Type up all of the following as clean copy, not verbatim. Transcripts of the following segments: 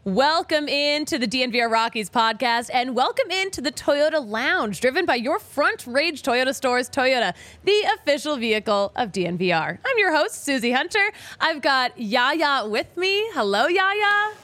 Welcome into the DNVR Rockies podcast and welcome into the Toyota Lounge, driven by your Front Range Toyota stores. Toyota, the official vehicle of DNVR. I'm your host, Susie Hunter. I've got Yaya with me. Hello, Yaya.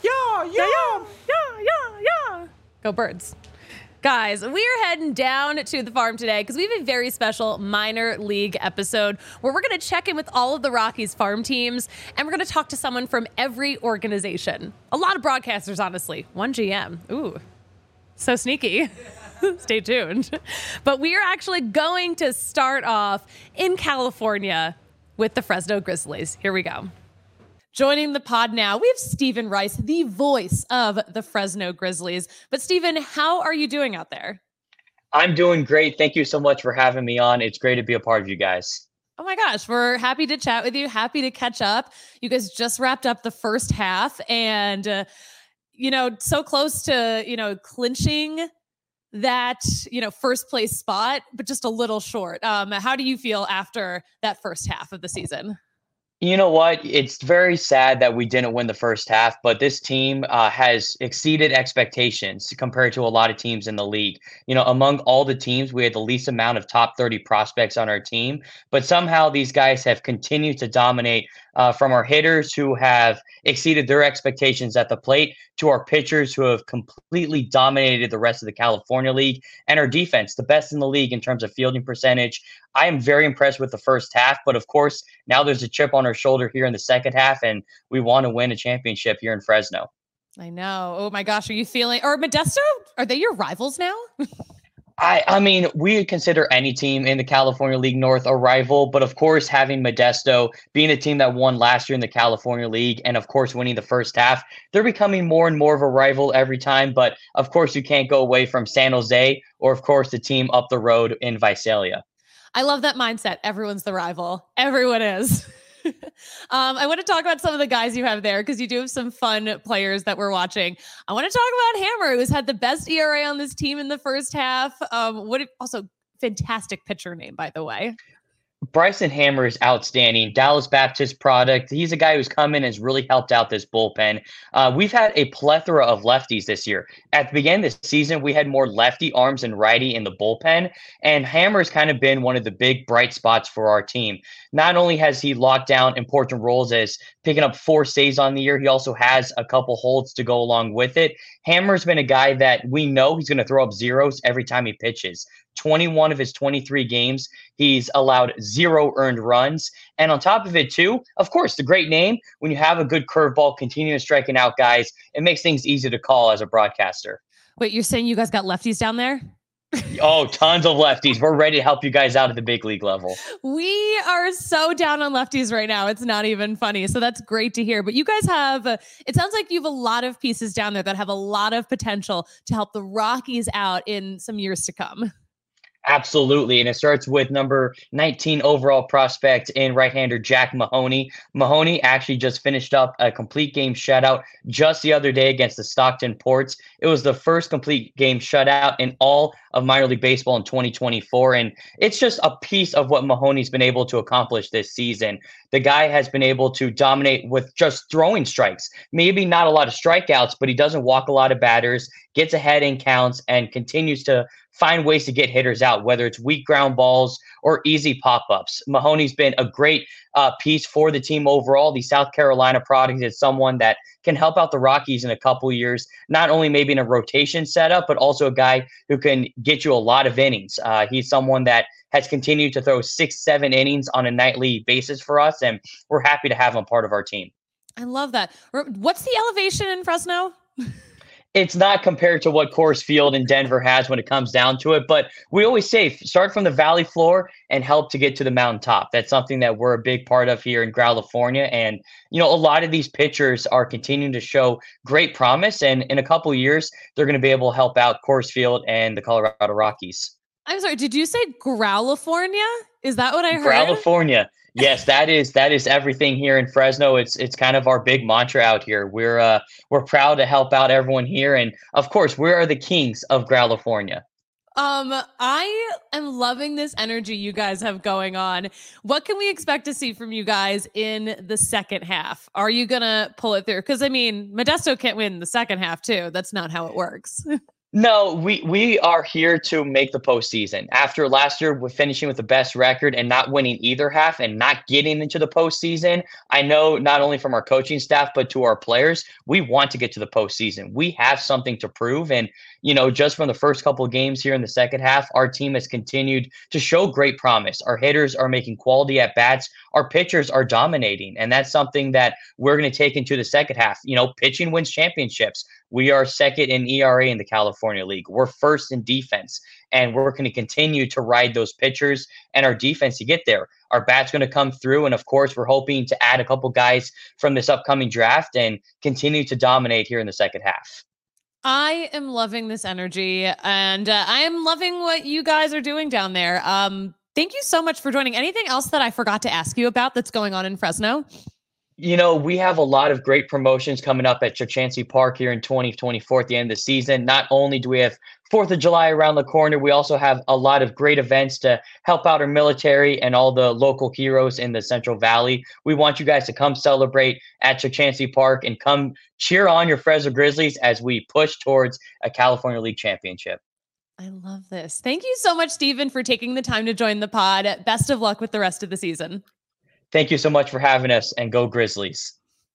Yeah. Go Birds. Guys, we're heading down to the farm today because we have a very special minor league episode where we're going to check in with all of the Rockies farm teams and we're going to talk to someone from every organization. A lot of broadcasters, honestly. One GM. Ooh, so sneaky. Stay tuned. But we are actually going to start off in California with the Fresno Grizzlies. Here we go. Joining the pod now, we have Steven Rice, the voice of the Fresno Grizzlies. But Steven, how are you doing out there? I'm doing great. Thank you so much for having me on. It's great to be a part of you guys. Oh my gosh, we're happy to chat with you. Happy to catch up. You guys just wrapped up the first half and, so close to, clinching that, first place spot, but just a little short. How do you feel after that first half of the season? You know what? It's very sad that we didn't win the first half, but this team has exceeded expectations compared to a lot of teams in the league. Among all the teams, we had the least amount of top 30 prospects on our team, but somehow these guys have continued to dominate from our hitters who have exceeded their expectations at the plate to our pitchers who have completely dominated the rest of the California League, and our defense, the best in the league in terms of fielding percentage. I am very impressed with the first half, but of course, now there's a chip on our shoulder here in the second half, and we want to win a championship here in Fresno. I know. Oh my gosh, are you feeling, or Modesto, are they your rivals now? I mean, we consider any team in the California League North a rival, but of course, having Modesto being a team that won last year in the California League and of course winning the first half, they're becoming more and more of a rival every time. But of course, you can't go away from San Jose or of course the team up the road in Visalia. I love that mindset. Everyone's the rival. Everyone is. I want to talk about some of the guys you have there because you do have some fun players that we're watching. I want to talk about Hammer, who's had the best ERA on this team in the first half. Also fantastic pitcher name, by the way. Bryson Hammer is outstanding. Dallas Baptist product. He's a guy who's come in and has really helped out this bullpen. We've had a plethora of lefties this year. At the beginning of the season, we had more lefty arms than righty in the bullpen, and Hammer's kind of been one of the big bright spots for our team. Not only has he locked down important roles as picking up 4 saves on the year, he also has a couple holds to go along with it. Hammer's been a guy that we know he's going to throw up zeros every time he pitches. 21 of his 23 games, he's allowed 0 earned runs. And on top of it, too, of course, the great name, when you have a good curveball, continuing striking out guys, it makes things easy to call as a broadcaster. Wait, you're saying you guys got lefties down there? Oh, tons of lefties. We're ready to help you guys out at the big league level. We are so down on lefties right now. It's not even funny. So that's great to hear. But you guys have, it sounds like you have a lot of pieces down there that have a lot of potential to help the Rockies out in some years to come. Absolutely. And it starts with number 19 overall prospect in right-hander Jack Mahoney. Mahoney actually just finished up a complete game shutout just the other day against the Stockton Ports. It was the first complete game shutout in all of minor league baseball in 2024. And it's just a piece of what Mahoney's been able to accomplish this season. The guy has been able to dominate with just throwing strikes. Maybe not a lot of strikeouts, but he doesn't walk a lot of batters, gets ahead in counts, and continues to find ways to get hitters out, whether it's weak ground balls or easy pop-ups. Mahoney's been a great piece for the team overall. The South Carolina product is someone that can help out the Rockies in a couple years, not only maybe in a rotation setup, but also a guy who can get you a lot of innings. He's someone that has continued to throw 6-7 innings on a nightly basis for us, and we're happy to have him part of our team. I love that. What's the elevation in Fresno? It's not compared to what Coors Field in Denver has when it comes down to it, but we always say start from the valley floor and help to get to the mountaintop. That's something that we're a big part of here in California. And, a lot of these pitchers are continuing to show great promise. And in a couple of years, they're going to be able to help out Coors Field and the Colorado Rockies. I'm sorry, did you say Growlifornia? Is that what I heard? California. Yes, that is everything here in Fresno. It's kind of our big mantra out here. We're proud to help out everyone here, and of course, we are the kings of California. I am loving this energy you guys have going on. What can we expect to see from you guys in the second half? Are you gonna pull it through? Because I mean, Modesto can't win the second half too. That's not how it works. No, we are here to make the postseason. After last year, we're finishing with the best record and not winning either half and not getting into the postseason. I know not only from our coaching staff, but to our players, we want to get to the postseason. We have something to prove. And, just from the first couple of games here in the second half, our team has continued to show great promise. Our hitters are making quality at bats. Our pitchers are dominating. And that's something that we're going to take into the second half. Pitching wins championships. We are second in ERA in the California League. We're first in defense, and we're going to continue to ride those pitchers and our defense to get there. Our bat's going to come through, and of course, we're hoping to add a couple guys from this upcoming draft and continue to dominate here in the second half. I am loving this energy, and I am loving what you guys are doing down there. Thank you so much for joining. Anything else that I forgot to ask you about that's going on in Fresno? We have a lot of great promotions coming up at Chukchansi Park here in 2024 at the end of the season. Not only do we have 4th of July around the corner, we also have a lot of great events to help out our military and all the local heroes in the Central Valley. We want you guys to come celebrate at Chukchansi Park and come cheer on your Fresno Grizzlies as we push towards a California League championship. I love this. Thank you so much, Stephen, for taking the time to join the pod. Best of luck with the rest of the season. Thank you so much for having us, and go Grizzlies.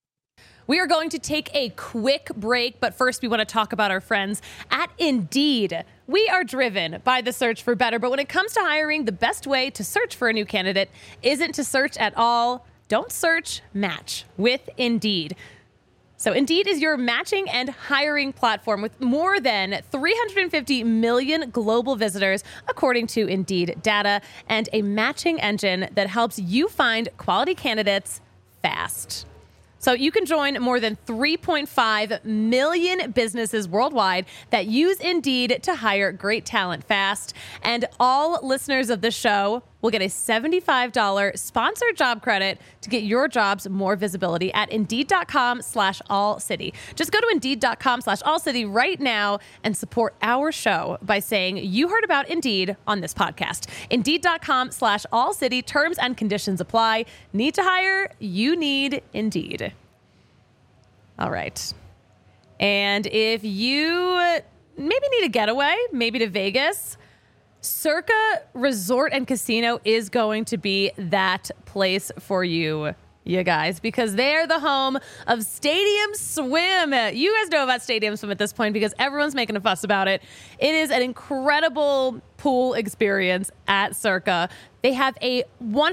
We are going to take a quick break, but first we want to talk about our friends at Indeed. We are driven by the search for better, but when it comes to hiring, the best way to search for a new candidate isn't to search at all. Don't search, match with Indeed. So Indeed is your matching and hiring platform with more than 350 million global visitors, according to Indeed data, and a matching engine that helps you find quality candidates fast. So you can join more than 3.5 million businesses worldwide that use Indeed to hire great talent fast. And all listeners of the show will get a $75 sponsored job credit to get your jobs more visibility at Indeed.com/allcity. Just go to Indeed.com/allcity right now and support our show by saying you heard about Indeed on this podcast. Indeed.com/allcity. Terms and conditions apply. Need to hire? You need Indeed. All right. And if you maybe need a getaway, maybe to Vegas, Circa Resort and Casino is going to be that place for you guys, because they're the home of Stadium Swim. You guys know about Stadium Swim at this point because everyone's making a fuss about it. It is an incredible pool experience at Circa. They have a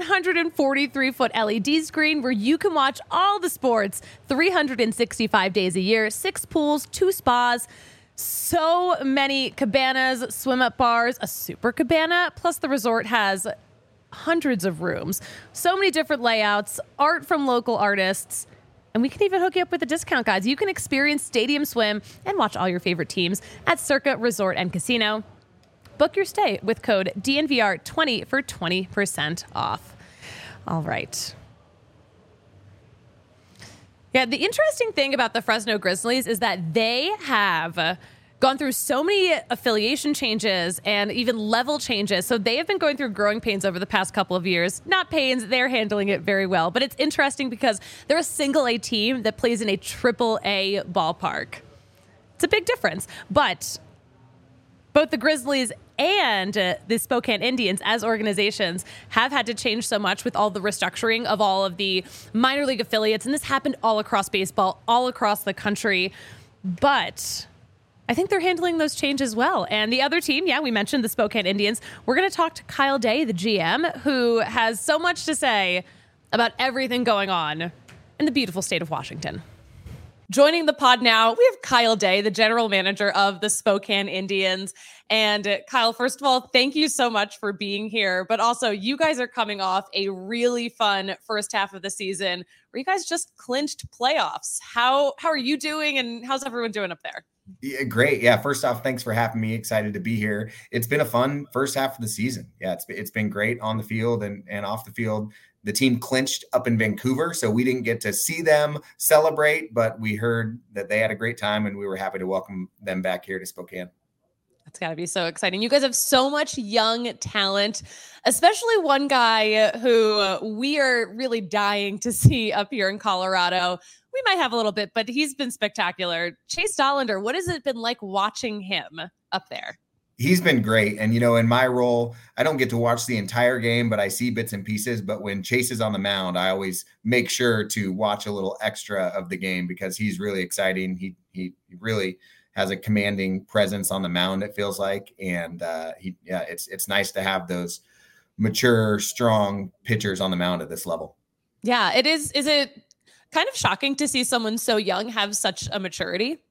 143-foot LED screen where you can watch all the sports 365 days a year, 6 pools, 2 spas, so many cabanas, swim-up bars, a super cabana, plus the resort has hundreds of rooms, so many different layouts, art from local artists, and we can even hook you up with a discount, guys. You can experience Stadium Swim and watch all your favorite teams at Circa Resort and Casino. Book your stay with code DNVR20 for 20% off. All right. Yeah, the interesting thing about the Fresno Grizzlies is that they have gone through so many affiliation changes and even level changes. So they have been going through growing pains over the past couple of years. Not pains, they're handling it very well. But it's interesting because they're a single A team that plays in a triple A ballpark. It's a big difference. But both the Grizzlies and the Spokane Indians as organizations have had to change so much with all the restructuring of all of the minor league affiliates. And this happened all across baseball, all across the country. But I think they're handling those changes well. And the other team, yeah, we mentioned the Spokane Indians. We're going to talk to Kyle Day, the GM, who has so much to say about everything going on in the beautiful state of Washington. Joining the pod now, we have Kyle Day, the general manager of the Spokane Indians. And Kyle, first of all, thank you so much for being here. But also, you guys are coming off a really fun first half of the season where you guys just clinched playoffs. How are you doing, and how's everyone doing up there? Yeah, great. Yeah. First off, thanks for having me. Excited to be here. It's been a fun first half of the season. Yeah, it's been great on the field and off the field. The team clinched up in Vancouver, so we didn't get to see them celebrate, but we heard that they had a great time, and we were happy to welcome them back here to Spokane. It's got to be so exciting. You guys have so much young talent, especially one guy who we are really dying to see up here in Colorado. We might have a little bit, but he's been spectacular. Chase Dollander, what has it been like watching him up there? He's been great. And, in my role, I don't get to watch the entire game, but I see bits and pieces. But when Chase is on the mound, I always make sure to watch a little extra of the game because he's really exciting. He really has a commanding presence on the mound, it feels like. And it's nice to have those mature, strong pitchers on the mound at this level. Yeah, it is. Is it kind of shocking to see someone so young have such a maturity?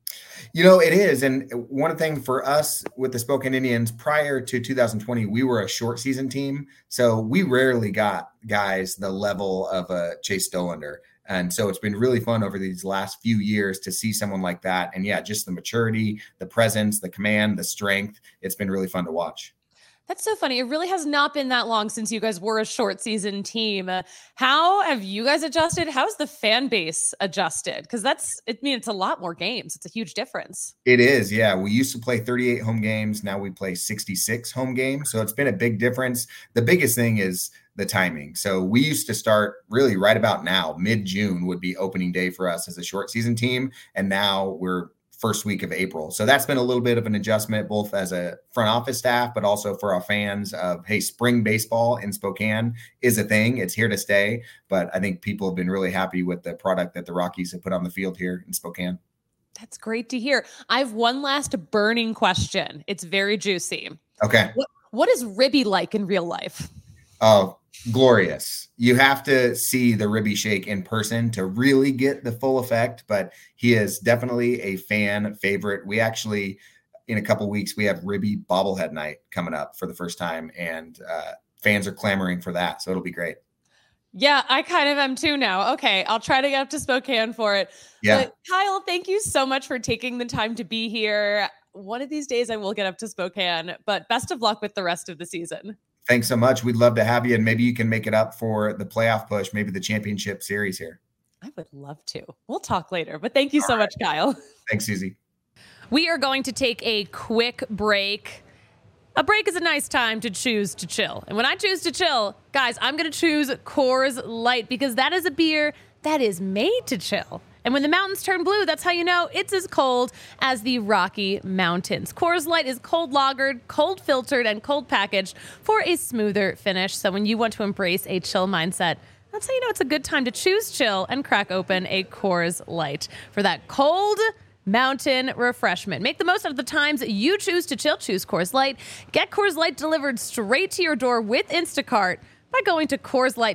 It is. And one thing for us with the Spokane Indians prior to 2020, we were a short season team. So we rarely got guys the level of a Chase Dollander. And so it's been really fun over these last few years to see someone like that. And just the maturity, the presence, the command, the strength. It's been really fun to watch. That's so funny. It really has not been that long since you guys were a short season team. How have you guys adjusted? How's the fan base adjusted? Because it's a lot more games. It's a huge difference. It is. Yeah. We used to play 38 home games. Now we play 66 home games. So it's been a big difference. The biggest thing is the timing. So we used to start really right about now. Mid-June would be opening day for us as a short season team. And now we're first week of April. So that's been a little bit of an adjustment, both as a front office staff, but also for our fans of, hey, spring baseball in Spokane is a thing. It's here to stay. But I think people have been really happy with the product that the Rockies have put on the field here in Spokane. That's great to hear. I have one last burning question. It's very juicy. Okay. What is Ribby like in real life? Oh, glorious. You have to see the Ribby Shake in person to really get the full effect, but he is definitely a fan favorite. We actually, in a couple weeks, we have Ribby bobblehead night coming up for the first time, and fans are clamoring for that. So it'll be great. Yeah, I kind of am too now. Okay, I'll try to get up to Spokane for it. Yeah. But Kyle, thank you so much for taking the time to be here. One of these days I will get up to Spokane, but best of luck with the rest of the season. Thanks so much. We'd love to have you, and maybe you can make it up for the playoff push, maybe the championship series here. I would love to. We'll talk later, but thank you so much, Kyle. Thanks, Susie. We are going to take a quick break. A break is a nice time to choose to chill. And when I choose to chill, guys, I'm going to choose Coors Light because that is a beer that is made to chill. And when the mountains turn blue, that's how you know it's as cold as the Rocky Mountains. Coors Light is cold lagered, cold filtered, and cold packaged for a smoother finish. So when you want to embrace a chill mindset, that's how you know it's a good time to choose chill and crack open a Coors Light for that cold mountain refreshment. Make the most of the times you choose to chill. Choose Coors Light. Get Coors Light delivered straight to your door with Instacart by going to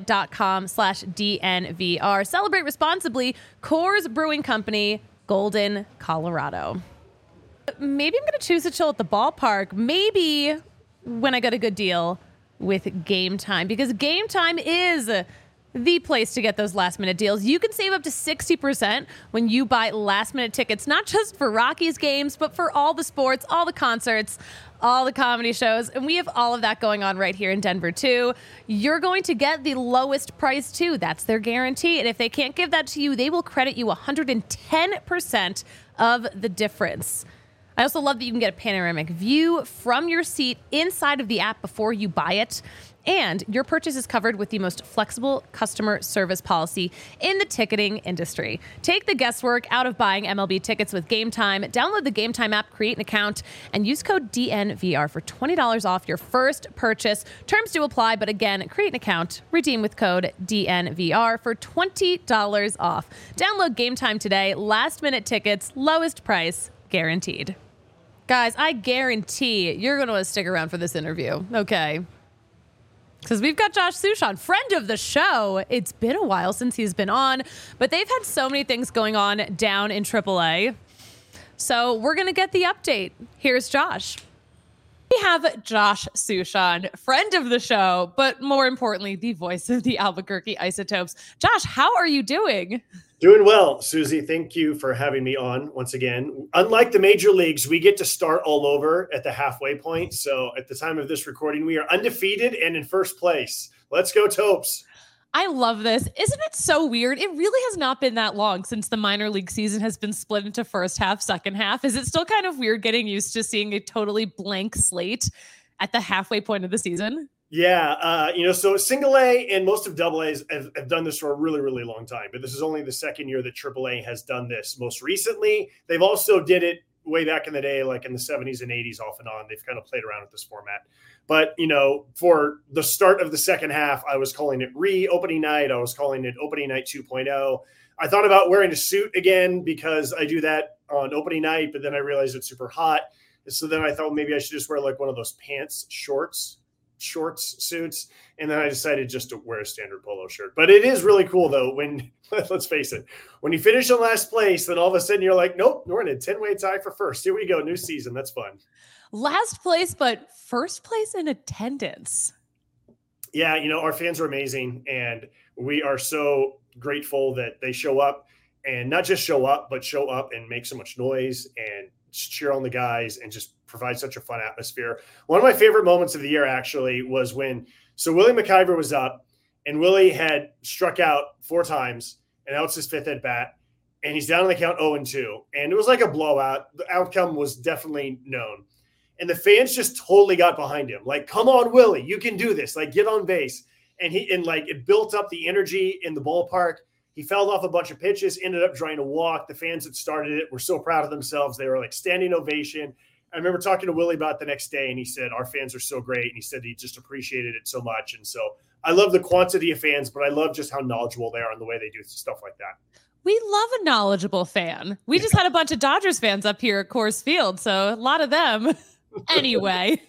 CoorsLight.com/DNVR. Celebrate responsibly. Coors Brewing Company, Golden, Colorado. Maybe I'm going to choose to chill at the ballpark. Maybe when I get a good deal with Game Time, because Game Time is the place to get those last minute deals. You can save up to 60% when you buy last minute tickets, not just for Rockies games, but for all the sports, all the concerts, all the comedy shows. And we have all of that going on right here in Denver too. You're going to get the lowest price too. That's their guarantee. And if they can't give that to you, they will credit you 110% of the difference. I also love that you can get a panoramic view from your seat inside of the app before you buy it. And your purchase is covered with the most flexible customer service policy in the ticketing industry. Take the guesswork out of buying MLB tickets with Game Time. Download the Game Time app, create an account, and use code DNVR for $20 off your first purchase. Terms do apply, but again, create an account, redeem with code DNVR for $20 off. Download Game Time today. Last minute tickets, lowest price, guaranteed. Guys, I guarantee you're going to want to stick around for this interview. Okay. Because we've got Josh Suchon, friend of the show. It's been a while since he's been on, but they've had so many things going on down in AAA. So we're going to get the update. Here's Josh. We have Josh Suchon, friend of the show, but more importantly, the voice of the Albuquerque Isotopes. Josh, how are you doing? Doing well, Susie. Thank you for having me on once again. Unlike the major leagues, we get to start all over at the halfway point. So at the time of this recording, we are undefeated and in first place. Let's go, Topes. I love this. Isn't it so weird? It really has not been that long since the minor league season has been split into first half, second half. Is it still kind of weird getting used to seeing a totally blank slate at the halfway point of the season? Yeah. So single A and most of double A's have done this for a really, really long time, but this is only the second year that triple A has done this. Most recently, they've also did it way back in the day, like in the 70s and 80s off and on. They've kind of played around with this format. But, for the start of the second half, I was calling it opening night. I was calling it opening night 2.0. I thought about wearing a suit again because I do that on opening night, but then I realized it's super hot. So then I thought maybe I should just wear like one of those shorts suits. And then I decided just to wear a standard polo shirt. But it is really cool though, when, let's face it, when you finish in last place, then all of a sudden you're like, nope, we're in a 10-way tie for first. Here we go. New season. That's fun. Last place, but first place in attendance. Yeah. Our fans are amazing, and we are so grateful that they show up, and not just show up, but show up and make so much noise and cheer on the guys and just provide such a fun atmosphere. One of my favorite moments of the year actually was when Willie McIver was up, and Willie had struck out 4 times, and that was his 5th at bat, and he's down on the count 0-2, and it was like a blowout. The outcome was definitely known, and the fans just totally got behind him. Like, come on, Willie, you can do this. Like, get on base. And it built up the energy in the ballpark. He fouled off a bunch of pitches, ended up trying to walk. The fans that started it were so proud of themselves. They were like standing ovation. I remember talking to Willie about it the next day, and he said, our fans are so great. And he said he just appreciated it so much. And so I love the quantity of fans, but I love just how knowledgeable they are and the way they do stuff like that. We love a knowledgeable fan. We just had a bunch of Dodgers fans up here at Coors Field, so a lot of them. Anyway,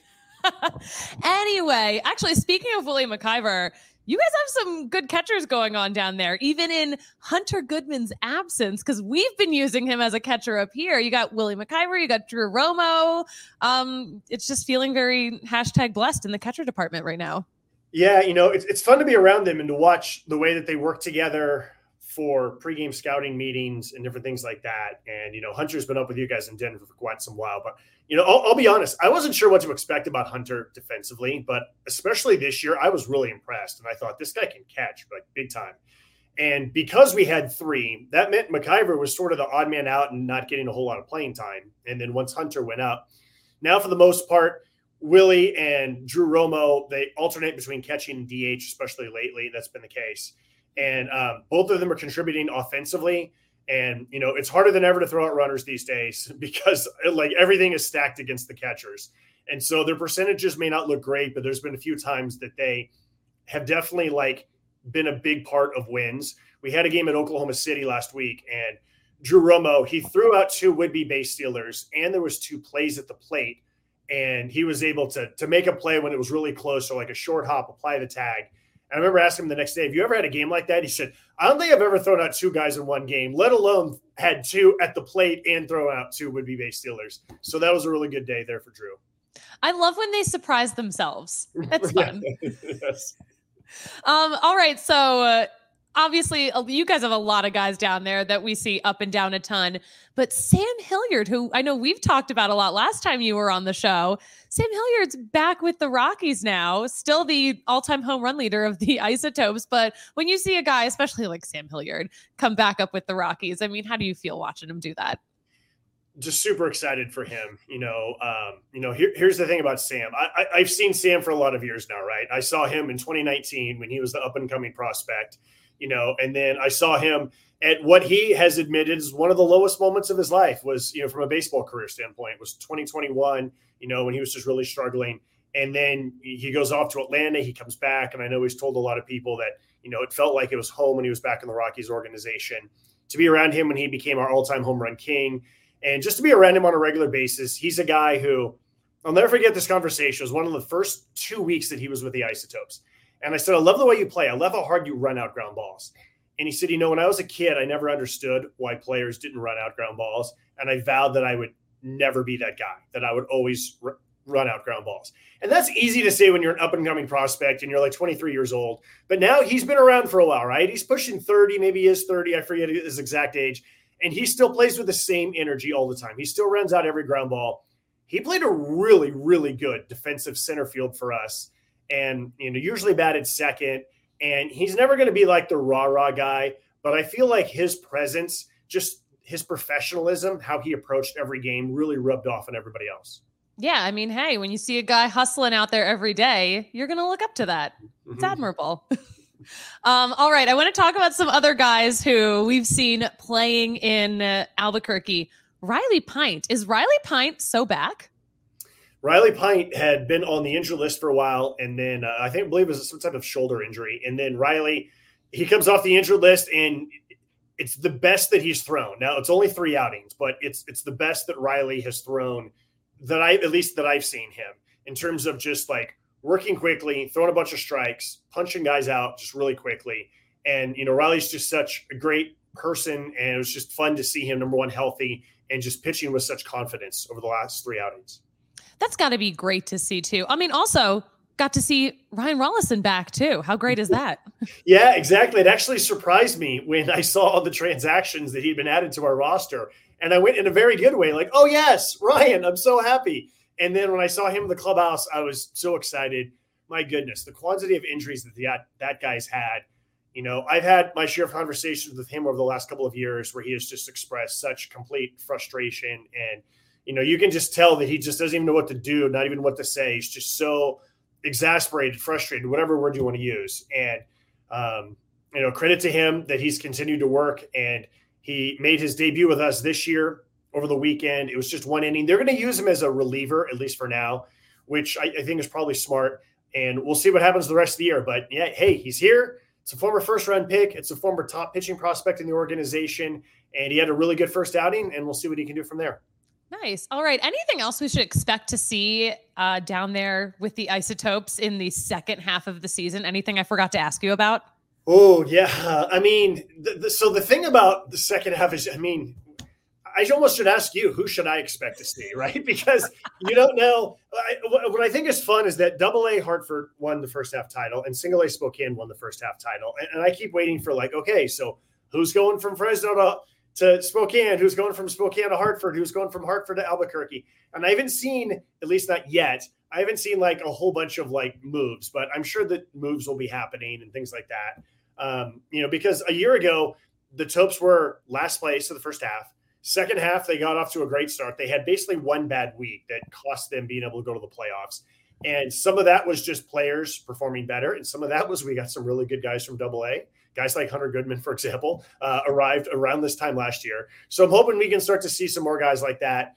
actually, speaking of Willie McIver, you guys have some good catchers going on down there, even in Hunter Goodman's absence, because we've been using him as a catcher up here. You got Willie McIver, you got Drew Romo. It's just feeling very #blessed in the catcher department right now. Yeah, it's fun to be around them and to watch the way that they work together for pregame scouting meetings and different things like that. And, Hunter's been up with you guys in Denver for quite some while, but, I'll be honest, I wasn't sure what to expect about Hunter defensively, but especially this year, I was really impressed. And I thought this guy can catch like big time. And because we had 3, that meant McIver was sort of the odd man out and not getting a whole lot of playing time. And then once Hunter went up, now for the most part, Willie and Drew Romo, they alternate between catching and DH, especially lately. That's been the case. And both of them are contributing offensively. And, it's harder than ever to throw out runners these days because like everything is stacked against the catchers. And so their percentages may not look great, but there's been a few times that they have definitely like been a big part of wins. We had a game at Oklahoma City last week, and Drew Romo, he threw out 2 would-be base stealers, and there was 2 plays at the plate. And he was able to make a play when it was really close. So like a short hop, apply the tag. I remember asking him the next day, have you ever had a game like that? He said, I don't think I've ever thrown out 2 guys in one game, let alone had 2 at the plate and throw out 2 would-be base stealers. So that was a really good day there for Drew. I love when they surprise themselves. That's fun. Yes. All right. So obviously, you guys have a lot of guys down there that we see up and down a ton. But Sam Hilliard, who I know we've talked about a lot last time you were on the show, Sam Hilliard's back with the Rockies now, still the all-time home run leader of the Isotopes. But when you see a guy, especially like Sam Hilliard, come back up with the Rockies, I mean, how do you feel watching him do that? Just super excited for him. Here's the thing about Sam. I've seen Sam for a lot of years now, right? I saw him in 2019 when he was the up-and-coming prospect, and then I saw him at what he has admitted is one of the lowest moments of his life was, from a baseball career standpoint, was 2021, when he was just really struggling. And then he goes off to Atlanta, he comes back. And I know he's told a lot of people that, it felt like it was home when he was back in the Rockies organization. To be around him when he became our all-time home run king, and just to be around him on a regular basis, he's a guy who, I'll never forget this conversation. It was one of the first 2 weeks that he was with the Isotopes. And I said, I love the way you play. I love how hard you run out ground balls. And he said, when I was a kid, I never understood why players didn't run out ground balls. And I vowed that I would never be that guy, that I would always run out ground balls. And that's easy to say when you're an up-and-coming prospect and you're like 23 years old. But now he's been around for a while, right? He's pushing 30, maybe he is 30. I forget his exact age. And he still plays with the same energy all the time. He still runs out every ground ball. He played a really, really good defensive center field for us. And, usually batted second. And he's never going to be like the rah-rah guy, but I feel like his presence, just his professionalism, how he approached every game really rubbed off on everybody else. Yeah, I mean, hey, when you see a guy hustling out there every day, you're going to look up to that. It's admirable. All right, I want to talk about some other guys who we've seen playing in Albuquerque. Riley Pint. Is Riley Pint so back? Riley Pint had been on the injury list for a while, and then I believe it was some type of shoulder injury. And then Riley, he comes off the injured list, and it's the best that he's thrown. Now, it's only 3 outings, but it's the best that Riley has thrown that I've seen him in terms of just like working quickly, throwing a bunch of strikes, punching guys out just really quickly. And, Riley's just such a great person, and it was just fun to see him, number one, healthy and just pitching with such confidence over the last 3 outings. That's got to be great to see too. I mean, also got to see Ryan Rollison back too. How great is that? Yeah, exactly. It actually surprised me when I saw all the transactions that he'd been added to our roster. And I went in a very good way, like, oh yes, Ryan, I'm so happy. And then when I saw him in the clubhouse, I was so excited. My goodness, the quantity of injuries that guy's had. I've had my share of conversations with him over the last couple of years where he has just expressed such complete frustration. And, you can just tell that he just doesn't even know what to do, not even what to say. He's just so exasperated, frustrated, whatever word you want to use. And, credit to him that he's continued to work, and he made his debut with us this year over the weekend. It was just 1 inning. They're going to use him as a reliever, at least for now, which I think is probably smart. And we'll see what happens the rest of the year. But yeah, hey, he's here. It's a former first-round pick. It's a former top pitching prospect in the organization. And he had a really good first outing, and we'll see what he can do from there. Nice. All right. Anything else we should expect to see down there with the Isotopes in the second half of the season? Anything I forgot to ask you about? Oh, yeah. I mean, so the thing about the second half is, I almost should ask you, who should I expect to see, right? Because you don't know. What I think is fun is that AA Hartford won the first half title and Single A Spokane won the first half title. And I keep waiting for okay, so who's going from Fresno to Spokane? Who's going from Spokane to Hartford? Who's going from Hartford to Albuquerque? And I haven't seen, at least not yet, I haven't seen a whole bunch of moves, but I'm sure that moves will be happening and things like that. Because a year ago, the Topes were last place of the first half. Second half, they got off to a great start. They had basically one bad week that cost them being able to go to the playoffs. And some of that was just players performing better. And some of that was we got some really good guys from AA. Guys like Hunter Goodman, for example, arrived around this time last year. So I'm hoping we can start to see some more guys like that.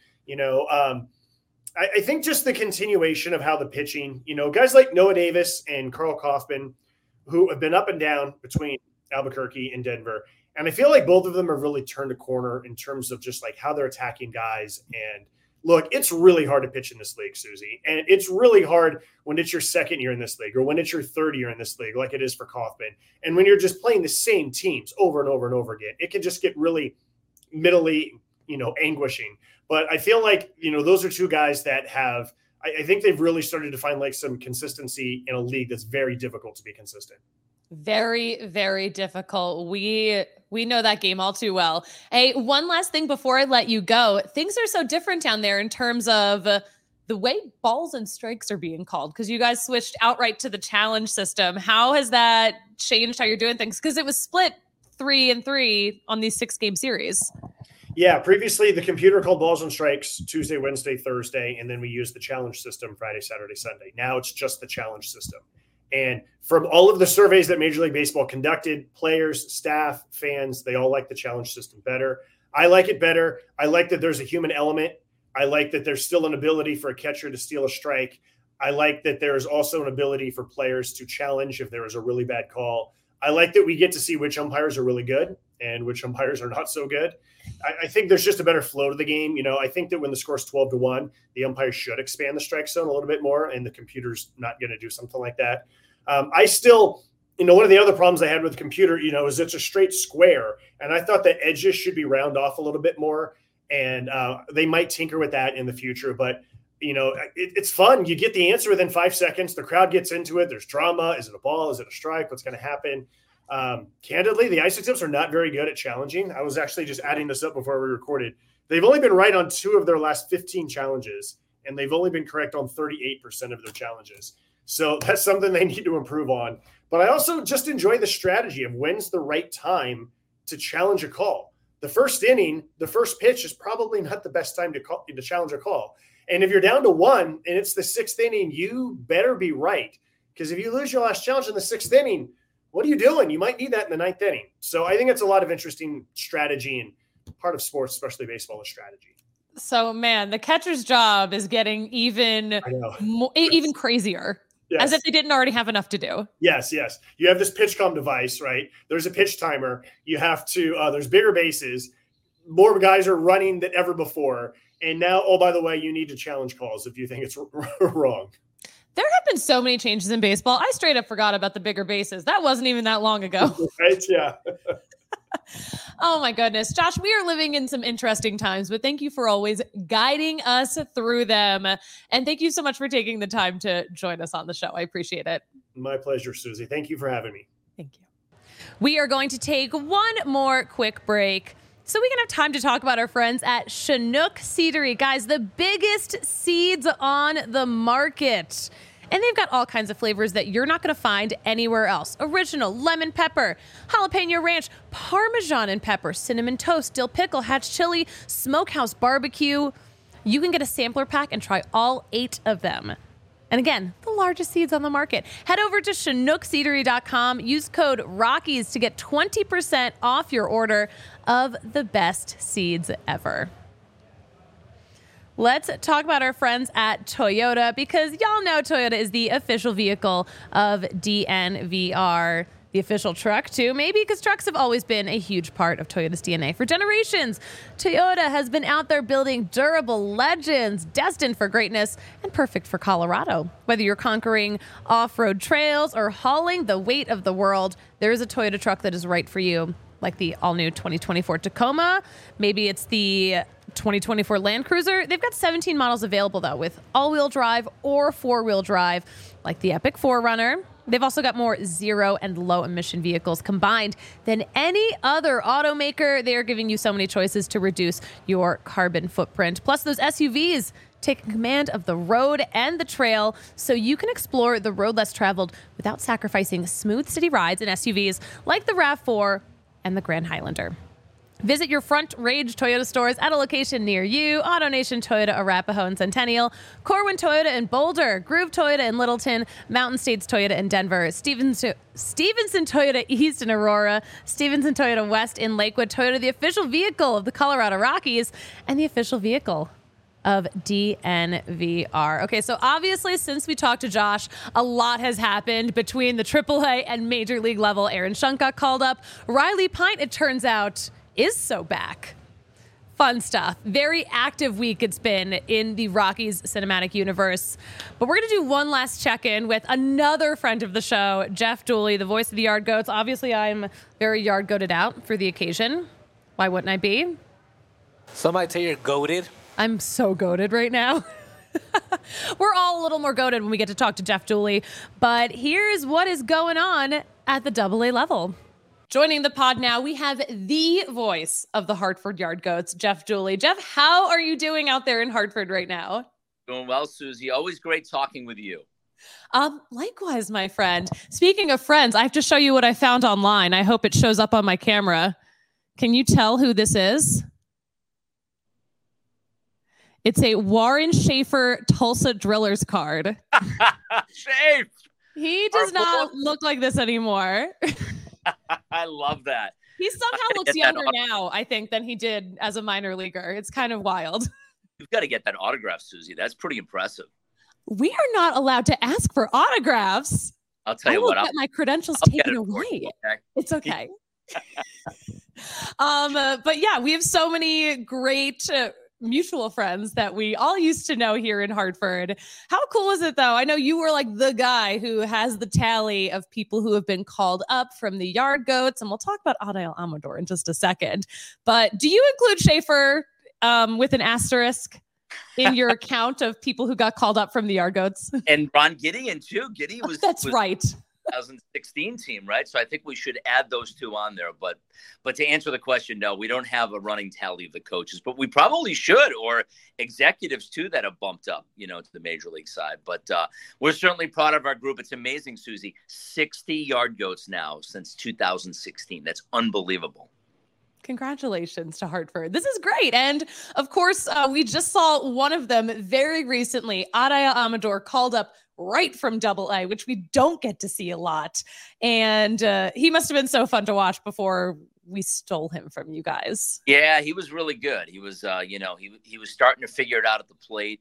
I think just the continuation of how the pitching, guys like Noah Davis and Carl Kaufman, who have been up and down between Albuquerque and Denver. And I feel like both of them have really turned a corner in terms of just how they're attacking guys. And look, it's really hard to pitch in this league, Susie. And it's really hard when it's your second year in this league or when it's your third year in this league, like it is for Kaufman. And when you're just playing the same teams over and over and over again, it can just get really mentally, anguishing. But I feel like, those are two guys that have, I think they've really started to find some consistency in a league that's very difficult to be consistent. Very, very difficult. We know that game all too well. Hey, one last thing before I let you go. Things are so different down there in terms of the way balls and strikes are being called, because you guys switched outright to the challenge system. How has that changed how you're doing things? Because it was split 3-3 on these 6-game series. Yeah, previously the computer called balls and strikes Tuesday, Wednesday, Thursday, and then we used the challenge system Friday, Saturday, Sunday. Now it's just the challenge system. And from all of the surveys that Major League Baseball conducted, players, staff, fans, they all like the challenge system better. I like it better. I like that there's a human element. I like that there's still an ability for a catcher to steal a strike. I like that there's also an ability for players to challenge if there is a really bad call. I like that we get to see which umpires are really good and which umpires are not so good. I think there's just a better flow to the game. I think that when the score's 12-1, the umpires should expand the strike zone a little bit more, and the computer's not going to do something like that. I still, one of the other problems I had with the computer, is it's a straight square. And I thought the edges should be round off a little bit more. And they might tinker with that in the future. But, it's fun. You get the answer within 5 seconds. The crowd gets into it. There's drama. Is it a ball? Is it a strike? What's going to happen? Candidly, the Isotopes are not very good at challenging. I was actually just adding this up before we recorded. They've only been right on 2 of their last 15 challenges, and they've only been correct on 38% of their challenges. So that's something they need to improve on. But I also just enjoy the strategy of when's the right time to challenge a call. The first inning, the first pitch is probably not the best time to challenge a call. And if you're down to 1 and it's the 6th inning, you better be right. Because if you lose your last challenge in the 6th inning, what are you doing? You might need that in the 9th inning. So I think it's a lot of interesting strategy, and part of sports, especially baseball, is strategy. So, man, the catcher's job is getting even crazier. Yes. As if they didn't already have enough to do. Yes. You have this PitchCom device, right? There's a pitch timer. You have to, there's bigger bases. More guys are running than ever before. And now, oh, by the way, you need to challenge calls if you think it's wrong. There have been so many changes in baseball. I straight up forgot about the bigger bases. That wasn't even that long ago. Right? Yeah. Oh my goodness. Josh, we are living in some interesting times, but thank you for always guiding us through them. And thank you so much for taking the time to join us on the show. I appreciate it. My pleasure, Susie. Thank you for having me. Thank you. We are going to take one more quick break so we can have time to talk about our friends at Chinook Seedery. Guys, the biggest seeds on the market. And they've got all kinds of flavors that you're not going to find anywhere else. Original, lemon pepper, jalapeno ranch, Parmesan and pepper, cinnamon toast, dill pickle, hatch chili, smokehouse barbecue. You can get a sampler pack and try all 8 of them. And again, the largest seeds on the market. Head over to ChinookSeedery.com. Use code Rockies to get 20% off your order of the best seeds ever. Let's talk about our friends at Toyota, because y'all know Toyota is the official vehicle of DNVR, the official truck too, maybe because trucks have always been a huge part of Toyota's DNA for generations. Toyota has been out there building durable legends destined for greatness and perfect for Colorado. Whether you're conquering off-road trails or hauling the weight of the world, there is a Toyota truck that is right for you, like the all-new 2024 Tacoma. Maybe it's the 2024 Land Cruiser. They've got 17 models available, though, with all-wheel drive or four-wheel drive, like the Epic 4Runner. They've also got more zero and low-emission vehicles combined than any other automaker. They are giving you so many choices to reduce your carbon footprint. Plus, those SUVs take command of the road and the trail so you can explore the road less traveled without sacrificing smooth city rides in SUVs like the RAV4 and the Grand Highlander. Visit your Front Range Toyota stores at a location near you. AutoNation Toyota Arapahoe and Centennial, Corwin Toyota in Boulder, Groove Toyota in Littleton, Mountain States Toyota in Denver, Stevenson Toyota East in Aurora, Stevenson Toyota West in Lakewood. Toyota, the official vehicle of the Colorado Rockies and the official vehicle of DNVR. Okay, so obviously since we talked to Josh, a lot has happened between the AAA and Major League level. Aaron Schunk got called up. Riley Pint, it turns out, is so back. Fun stuff. Very active week it's been in the Rockies cinematic universe. But we're going to do one last check-in with another friend of the show, Jeff Dooley, the voice of the Yard Goats. Obviously, I'm very Yard Goated out for the occasion. Why wouldn't I be? Some might say you're goated. I'm so goated right now. We're all a little more goated when we get to talk to Jeff Dooley. But here's what is going on at the AA level. Joining the pod now, we have the voice of the Hartford Yard Goats, Jeff Dooley. Jeff, how are you doing out there in Hartford right now? Doing well, Susie. Always great talking with you. Likewise, my friend. Speaking of friends, I have to show you what I found online. I hope it shows up on my camera. Can you tell who this is? It's a Warren Schaefer Tulsa Drillers card. Schaefer! He does not look like this anymore. I love that. He somehow looks younger now, I think, than he did as a minor leaguer. It's kind of wild. You've got to get that autograph, Susie. That's pretty impressive. We are not allowed to ask for autographs. I'll tell you what. I'll get my credentials taken away. Okay? It's okay. But yeah, we have so many great mutual friends that we all used to know here in Hartford. How cool is it, though? I know you were like the guy who has the tally of people who have been called up from the Yard Goats, and we'll talk about Adael Amador in just a second. But do you include Schaefer with an asterisk in your account of people who got called up from the Yard Goats? And Ron Gideon, too. Gideon was... That's right. 2016 team, right? So I think we should add those two on there. But to answer the question, no, we don't have a running tally of the coaches, but we probably should, or executives too that have bumped up, to the major league side. But we're certainly proud of our group. It's amazing, Susie. 60 yard goats now since 2016. That's unbelievable. Congratulations to Hartford. This is great. And of course, we just saw one of them very recently. Araya Amador called up right from AA, which we don't get to see a lot. And he must have been so fun to watch before we stole him from you guys. Yeah, he was really good. He was, he was starting to figure it out at the plate.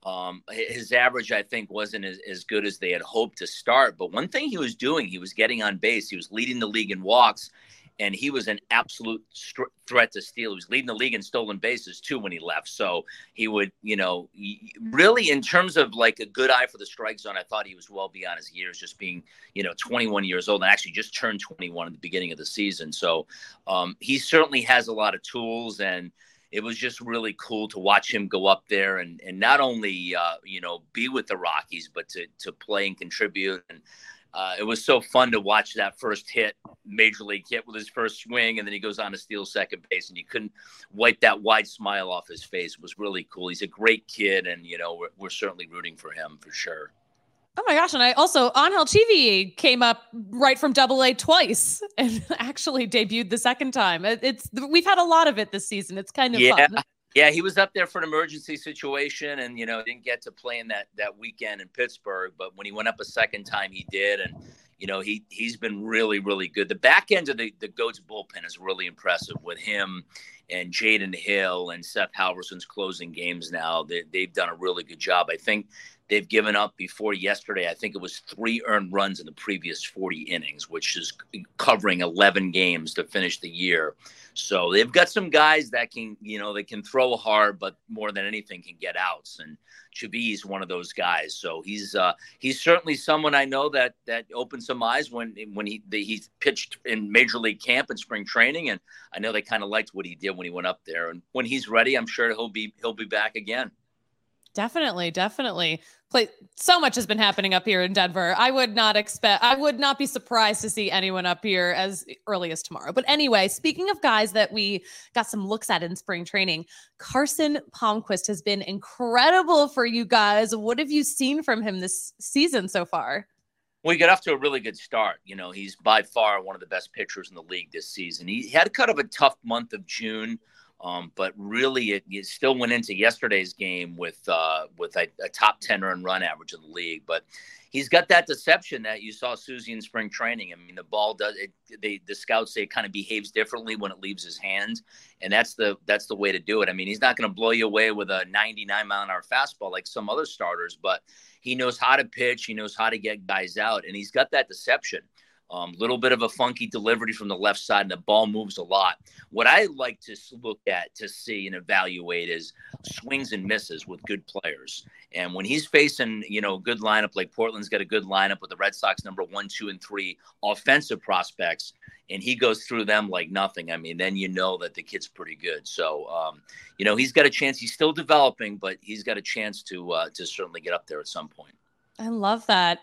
His average, I think, wasn't as good as they had hoped to start. But one thing he was doing, he was getting on base. He was leading the league in walks. And he was an absolute threat to steal. He was leading the league in stolen bases, too, when he left. So he would, really, in terms of like a good eye for the strike zone, I thought he was well beyond his years, just being, 21 years old, and actually just turned 21 at the beginning of the season. So he certainly has a lot of tools, and it was just really cool to watch him go up there and not only, be with the Rockies, but to play and contribute. And it was so fun to watch that first hit, major league hit with his first swing, and then he goes on to steal second base, and you couldn't wipe that wide smile off his face. It was really cool. He's a great kid, and, we're certainly rooting for him for sure. Oh my gosh. And I also, Angel Chivi came up right from AA twice and actually debuted the second time. We've had a lot of it this season. It's kind of fun. Yeah, he was up there for an emergency situation and, didn't get to play in that weekend in Pittsburgh. But when he went up a second time, he did. And, he's been really, really good. The back end of the Goats bullpen is really impressive with him and Jaden Hill and Seth Halverson's closing games now. They've done a really good job. I think they've given up before yesterday. I think it was 3 earned runs in the previous 40 innings, which is covering 11 games to finish the year. So they've got some guys that can, they can throw hard, but more than anything can get outs. And Chavis is one of those guys. So he's certainly someone I know that opened some eyes when he pitched in Major League camp and spring training. And I know they kind of liked what he did when he went up there. And when he's ready, I'm sure he'll be back again. Definitely. So much has been happening up here in Denver. I would not be surprised to see anyone up here as early as tomorrow. But anyway, speaking of guys that we got some looks at in spring training, Carson Palmquist has been incredible for you guys. What have you seen from him this season so far? Well, he got off to a really good start. He's by far one of the best pitchers in the league this season. He had kind of a tough month of June. But really, it still went into yesterday's game with a top 10 earned run average in the league. But he's got that deception that you saw Susie in spring training. I mean, the ball does it. The scouts say it kind of behaves differently when it leaves his hand, and that's the way to do it. I mean, he's not going to blow you away with a 99-mile-an-hour fastball like some other starters, but he knows how to pitch. He knows how to get guys out, and he's got that deception. Little bit of a funky delivery from the left side, and the ball moves a lot. What I like to look at, to see and evaluate is swings and misses with good players. And when he's facing, a good lineup, like Portland's got a good lineup with the Red Sox number 1, 2, and 3 offensive prospects, and he goes through them like nothing, I mean, then you know that the kid's pretty good. So, he's got a chance. He's still developing, but he's got a chance to certainly get up there at some point. I love that.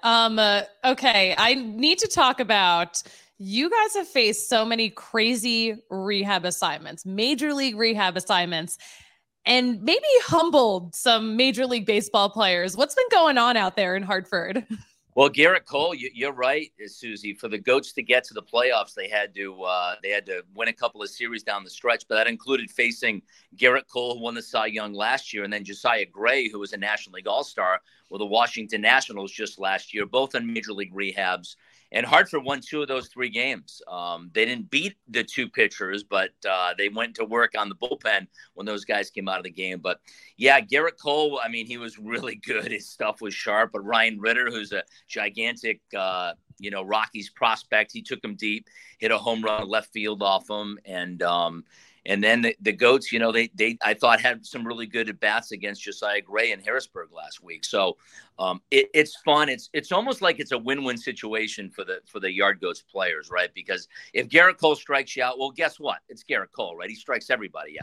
Okay, I need to talk about, you guys have faced so many crazy rehab assignments, major league rehab assignments, and maybe humbled some Major League Baseball players. What's been going on out there in Hartford? Well, Garrett Cole, you're right, Susie. For the Goats to get to the playoffs, they had to win a couple of series down the stretch, but that included facing Garrett Cole, who won the Cy Young last year, and then Josiah Gray, who was a National League All-Star with the Washington Nationals just last year, both in Major League rehabs. And Hartford won 2 of those 3 games. They didn't beat the 2 pitchers, but they went to work on the bullpen when those guys came out of the game. But, yeah, Garrett Cole, I mean, he was really good. His stuff was sharp. But Ryan Ritter, who's a gigantic, Rockies prospect, he took him deep, hit a home run left field off him. And then the Goats, they I thought had some really good at-bats against Josiah Gray in Harrisburg last week. So it's fun. It's almost like it's a win-win situation for the Yard Goats players, right? Because if Garrett Cole strikes you out, well, guess what? It's Garrett Cole, right? He strikes everybody out.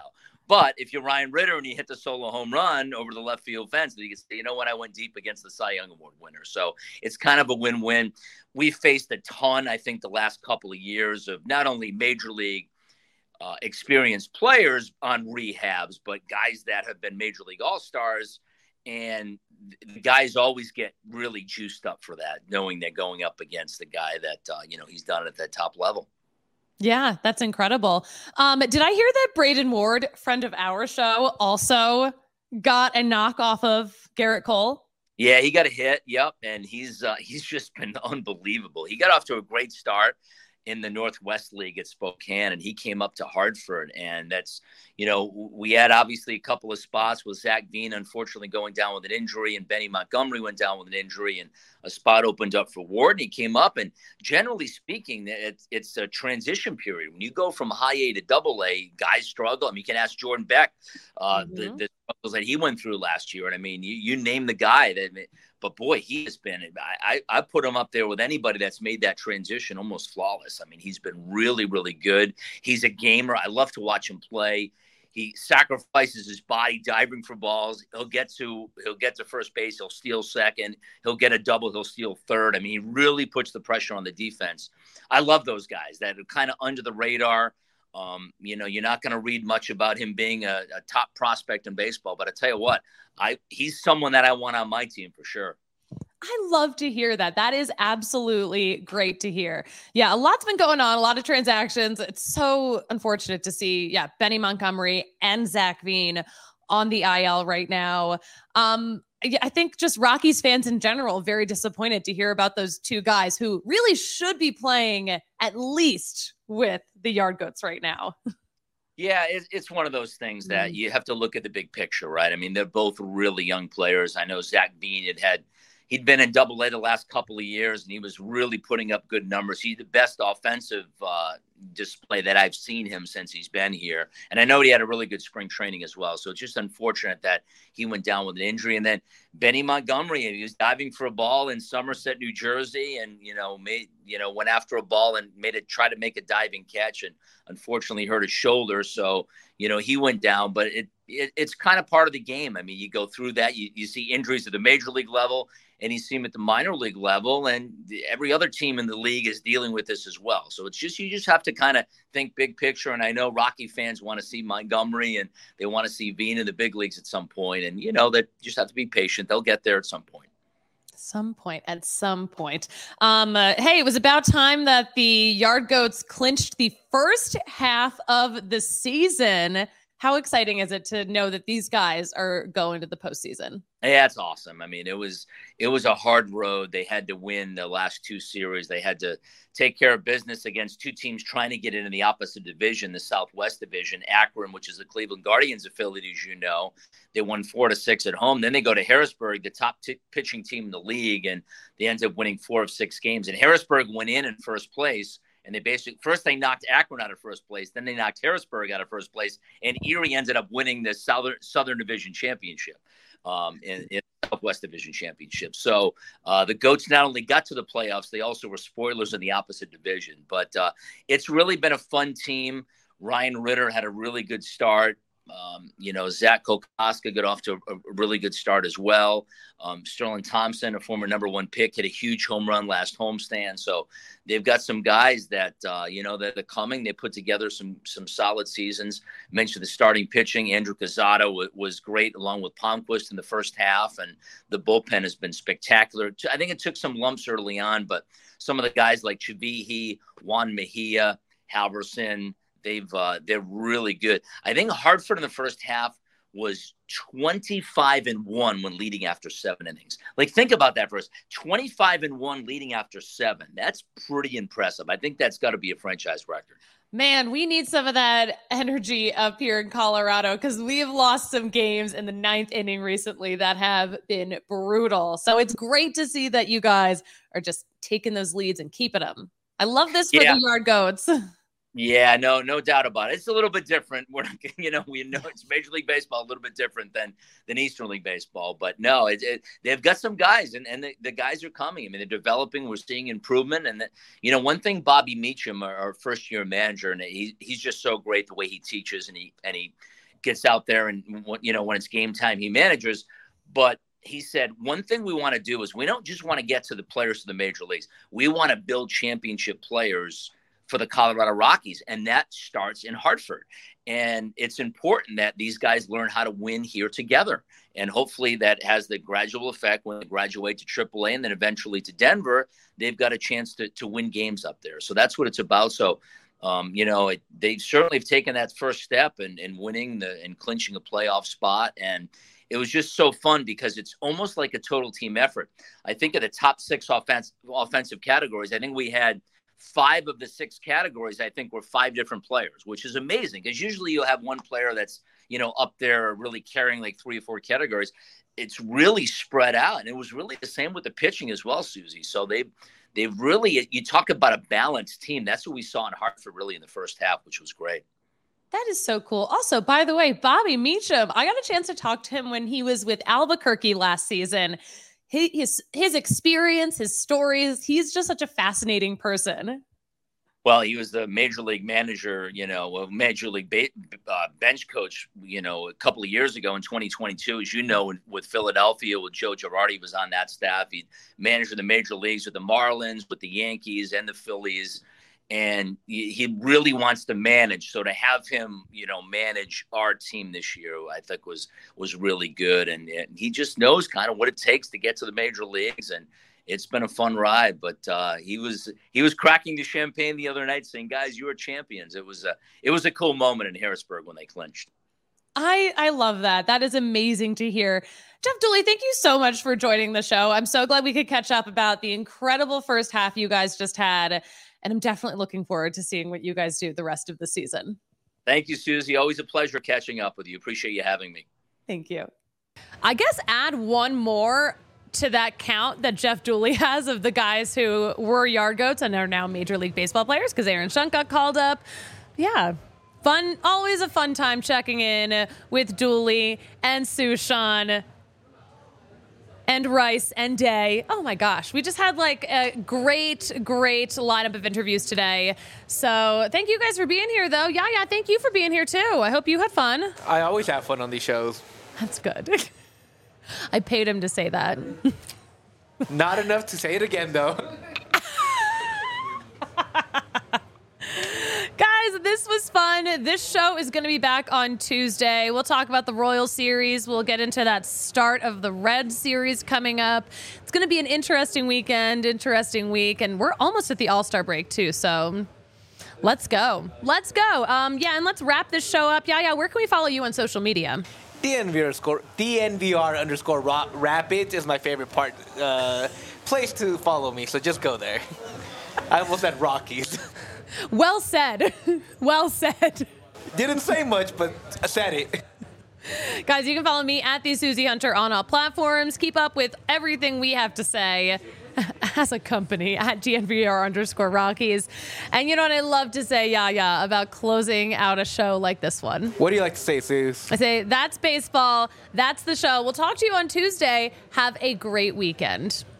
But if you're Ryan Ritter and you hit the solo home run over the left field fence, you can say, you know what, I went deep against the Cy Young Award winner. So it's kind of a win-win. We faced a ton, I think, the last couple of years of not only major league experienced players on rehabs, but guys that have been major league all-stars. And the guys always get really juiced up for that, knowing they're going up against the guy that, he's done it at that top level. Yeah, that's incredible. Did I hear that Braden Ward, friend of our show, also got a knock off of Garrett Cole? Yeah, he got a hit. Yep. And he's just been unbelievable. He got off to a great start in the Northwest League at Spokane, and he came up to Hartford. And that's, we had obviously a couple of spots with Zach Veen, unfortunately, going down with an injury, and Benny Montgomery went down with an injury, and a spot opened up for Ward, and he came up. And generally speaking, it's a transition period. When you go from high A to double A, guys struggle. I mean, you can ask Jordan Beck, the struggles that he went through last year. And I mean, you name the guy but boy, he has been, I put him up there with anybody that's made that transition almost flawless. I mean, he's been really, really good. He's a gamer. I love to watch him play. He sacrifices his body diving for balls. He'll get to first base. He'll steal second. He'll get a double. He'll steal third. I mean, he really puts the pressure on the defense. I love those guys that are kind of under the radar. You're not going to read much about him being a top prospect in baseball, but I tell you what, he's someone that I want on my team for sure. I love to hear that. That is absolutely great to hear. Yeah, a lot's been going on, a lot of transactions. It's so unfortunate to see, Benny Montgomery and Zach Veen on the IL right now. I think just Rockies fans in general, very disappointed to hear about those two guys who really should be playing at least with the Yard Goats right now. Yeah, it's one of those things that you have to look at the big picture, right? I mean, they're both really young players. I know Zach Veen he'd been in Double A the last couple of years, and he was really putting up good numbers. He's the best offensive display that I've seen him since he's been here. And I know he had a really good spring training as well. So it's just unfortunate that he went down with an injury. And then Benny Montgomery, he was diving for a ball in Somerset, New Jersey, and went after a ball and tried to make a diving catch, and unfortunately hurt his shoulder. So he went down, but it's kind of part of the game. I mean, you go through that, you see injuries at the major league level, and you see them at the minor league level, and every other team in the league is dealing with this as well. So you just have to kind of think big picture. And I know Rocky fans want to see Montgomery, and they want to see Veen in the big leagues at some point. And that just have to be patient. They'll get there at some point. At some point. Hey, it was about time that the Yard Goats clinched the first half of the season. How exciting is it to know that these guys are going to the postseason? Yeah, it's awesome. I mean, it was a hard road. They had to win the last two series. They had to take care of business against two teams trying to get into the opposite division, the Southwest Division. Akron, which is the Cleveland Guardians affiliate, as you know, they won 4-6 at home. Then they go to Harrisburg, the top pitching team in the league, and they ended up winning 4 of 6 games. And Harrisburg went in first place. And they knocked Akron out of first place. Then they knocked Harrisburg out of first place. And Erie ended up winning the Southern Division Championship, in Southwest Division Championship. So the Goats not only got to the playoffs, they also were spoilers in the opposite division. But it's really been a fun team. Ryan Ritter had a really good start. Zach Kokoska got off to a really good start as well. Sterling Thompson, a former number 1 pick, hit a huge home run last homestand. So they've got some guys that that are coming. They put together some solid seasons. Mentioned the starting pitching. Andrew Cazzato was great, along with Palmquist in the first half, and the bullpen has been spectacular. I think it took some lumps early on, but some of the guys like Chavihi, Juan Mejia, Halverson, they're really good. I think Hartford in the first half was 25-1 when leading after 7 innings. Like, think about that for us. 25-1 leading after 7. That's pretty impressive. I think that's got to be a franchise record. Man, we need some of that energy up here in Colorado, because we have lost some games in the 9th inning recently that have been brutal. So it's great to see that you guys are just taking those leads and keeping them. I love this for the Yard Goats. Yeah, no doubt about it. It's a little bit different. We're not, we know it's Major League Baseball, a little bit different than Eastern League Baseball. But no, they've got some guys, and the guys are coming. I mean, they're developing. We're seeing improvement. And one thing, Bobby Meacham, our first-year manager, and he's just so great the way he teaches, and he gets out there and, when it's game time, he manages. But he said, one thing we want to do is we don't just want to get to the players to the major leagues. We want to build championship players for the Colorado Rockies. And that starts in Hartford. And it's important that these guys learn how to win here together. And hopefully that has the gradual effect when they graduate to AAA and then eventually to Denver, they've got a chance to win games up there. So that's what it's about. So, they certainly have taken that first step in winning and clinching a playoff spot. And it was just so fun because it's almost like a total team effort. I think of the top 6 offensive categories, I think we had 5 of the 6 categories, I think, were 5 different players, which is amazing because usually you'll have one player that's, up there really carrying like 3 or 4 categories. It's really spread out. And it was really the same with the pitching as well, Susie. So they've really, you talk about a balanced team. That's what we saw in Hartford really in the first half, which was great. That is so cool. Also, by the way, Bobby Meacham, I got a chance to talk to him when he was with Albuquerque last season. His experience, his stories, he's just such a fascinating person. Well, he was the major league manager, major league bench coach, a couple of years ago in 2022, as you know, with Philadelphia, with Joe Girardi, he was on that staff. He managed in the major leagues with the Marlins, with the Yankees and the Phillies. And he really wants to manage. So to have him, manage our team this year, I think was really good. And he just knows kind of what it takes to get to the major leagues. And it's been a fun ride. But he was cracking the champagne the other night saying, guys, you are champions. It was a cool moment in Harrisburg when they clinched. I love that. That is amazing to hear. Jeff Dooley, thank you so much for joining the show. I'm so glad we could catch up about the incredible first half you guys just had. And I'm definitely looking forward to seeing what you guys do the rest of the season. Thank you, Susie. Always a pleasure catching up with you. Appreciate you having me. Thank you. I guess add one more to that count that Jeff Dooley has of the guys who were yard goats and are now Major League Baseball players because Aaron Shunt got called up. Yeah. Fun. Always a fun time checking in with Dooley and Sushan and Rice and Day. Oh my gosh. We just had like a great lineup of interviews today. So thank you guys for being here though. Yeah. Thank you for being here too. I hope you had fun. I always have fun on these shows. That's good. I paid him to say that. Not enough to say it again though. Guys, this was fun. This show is going to be back on Tuesday. We'll talk about the Royal Series. We'll get into that start of the Red Series coming up. It's going to be an interesting weekend, interesting week, and we're almost at the All-Star break too, so let's go. And let's wrap this show up. Yeah, where can we follow you on social media? DNVR_Rapids is my favorite place to follow me, so just go there. I almost said Rockies. Well said. Well said. Didn't say much, but I said it. Guys, you can follow me at the Susie Hunter on all platforms. Keep up with everything we have to say as a company at DNVR_Rockies. And you know what I love to say, about closing out a show like this one? What do you like to say, Suze? I say, that's baseball. That's the show. We'll talk to you on Tuesday. Have a great weekend.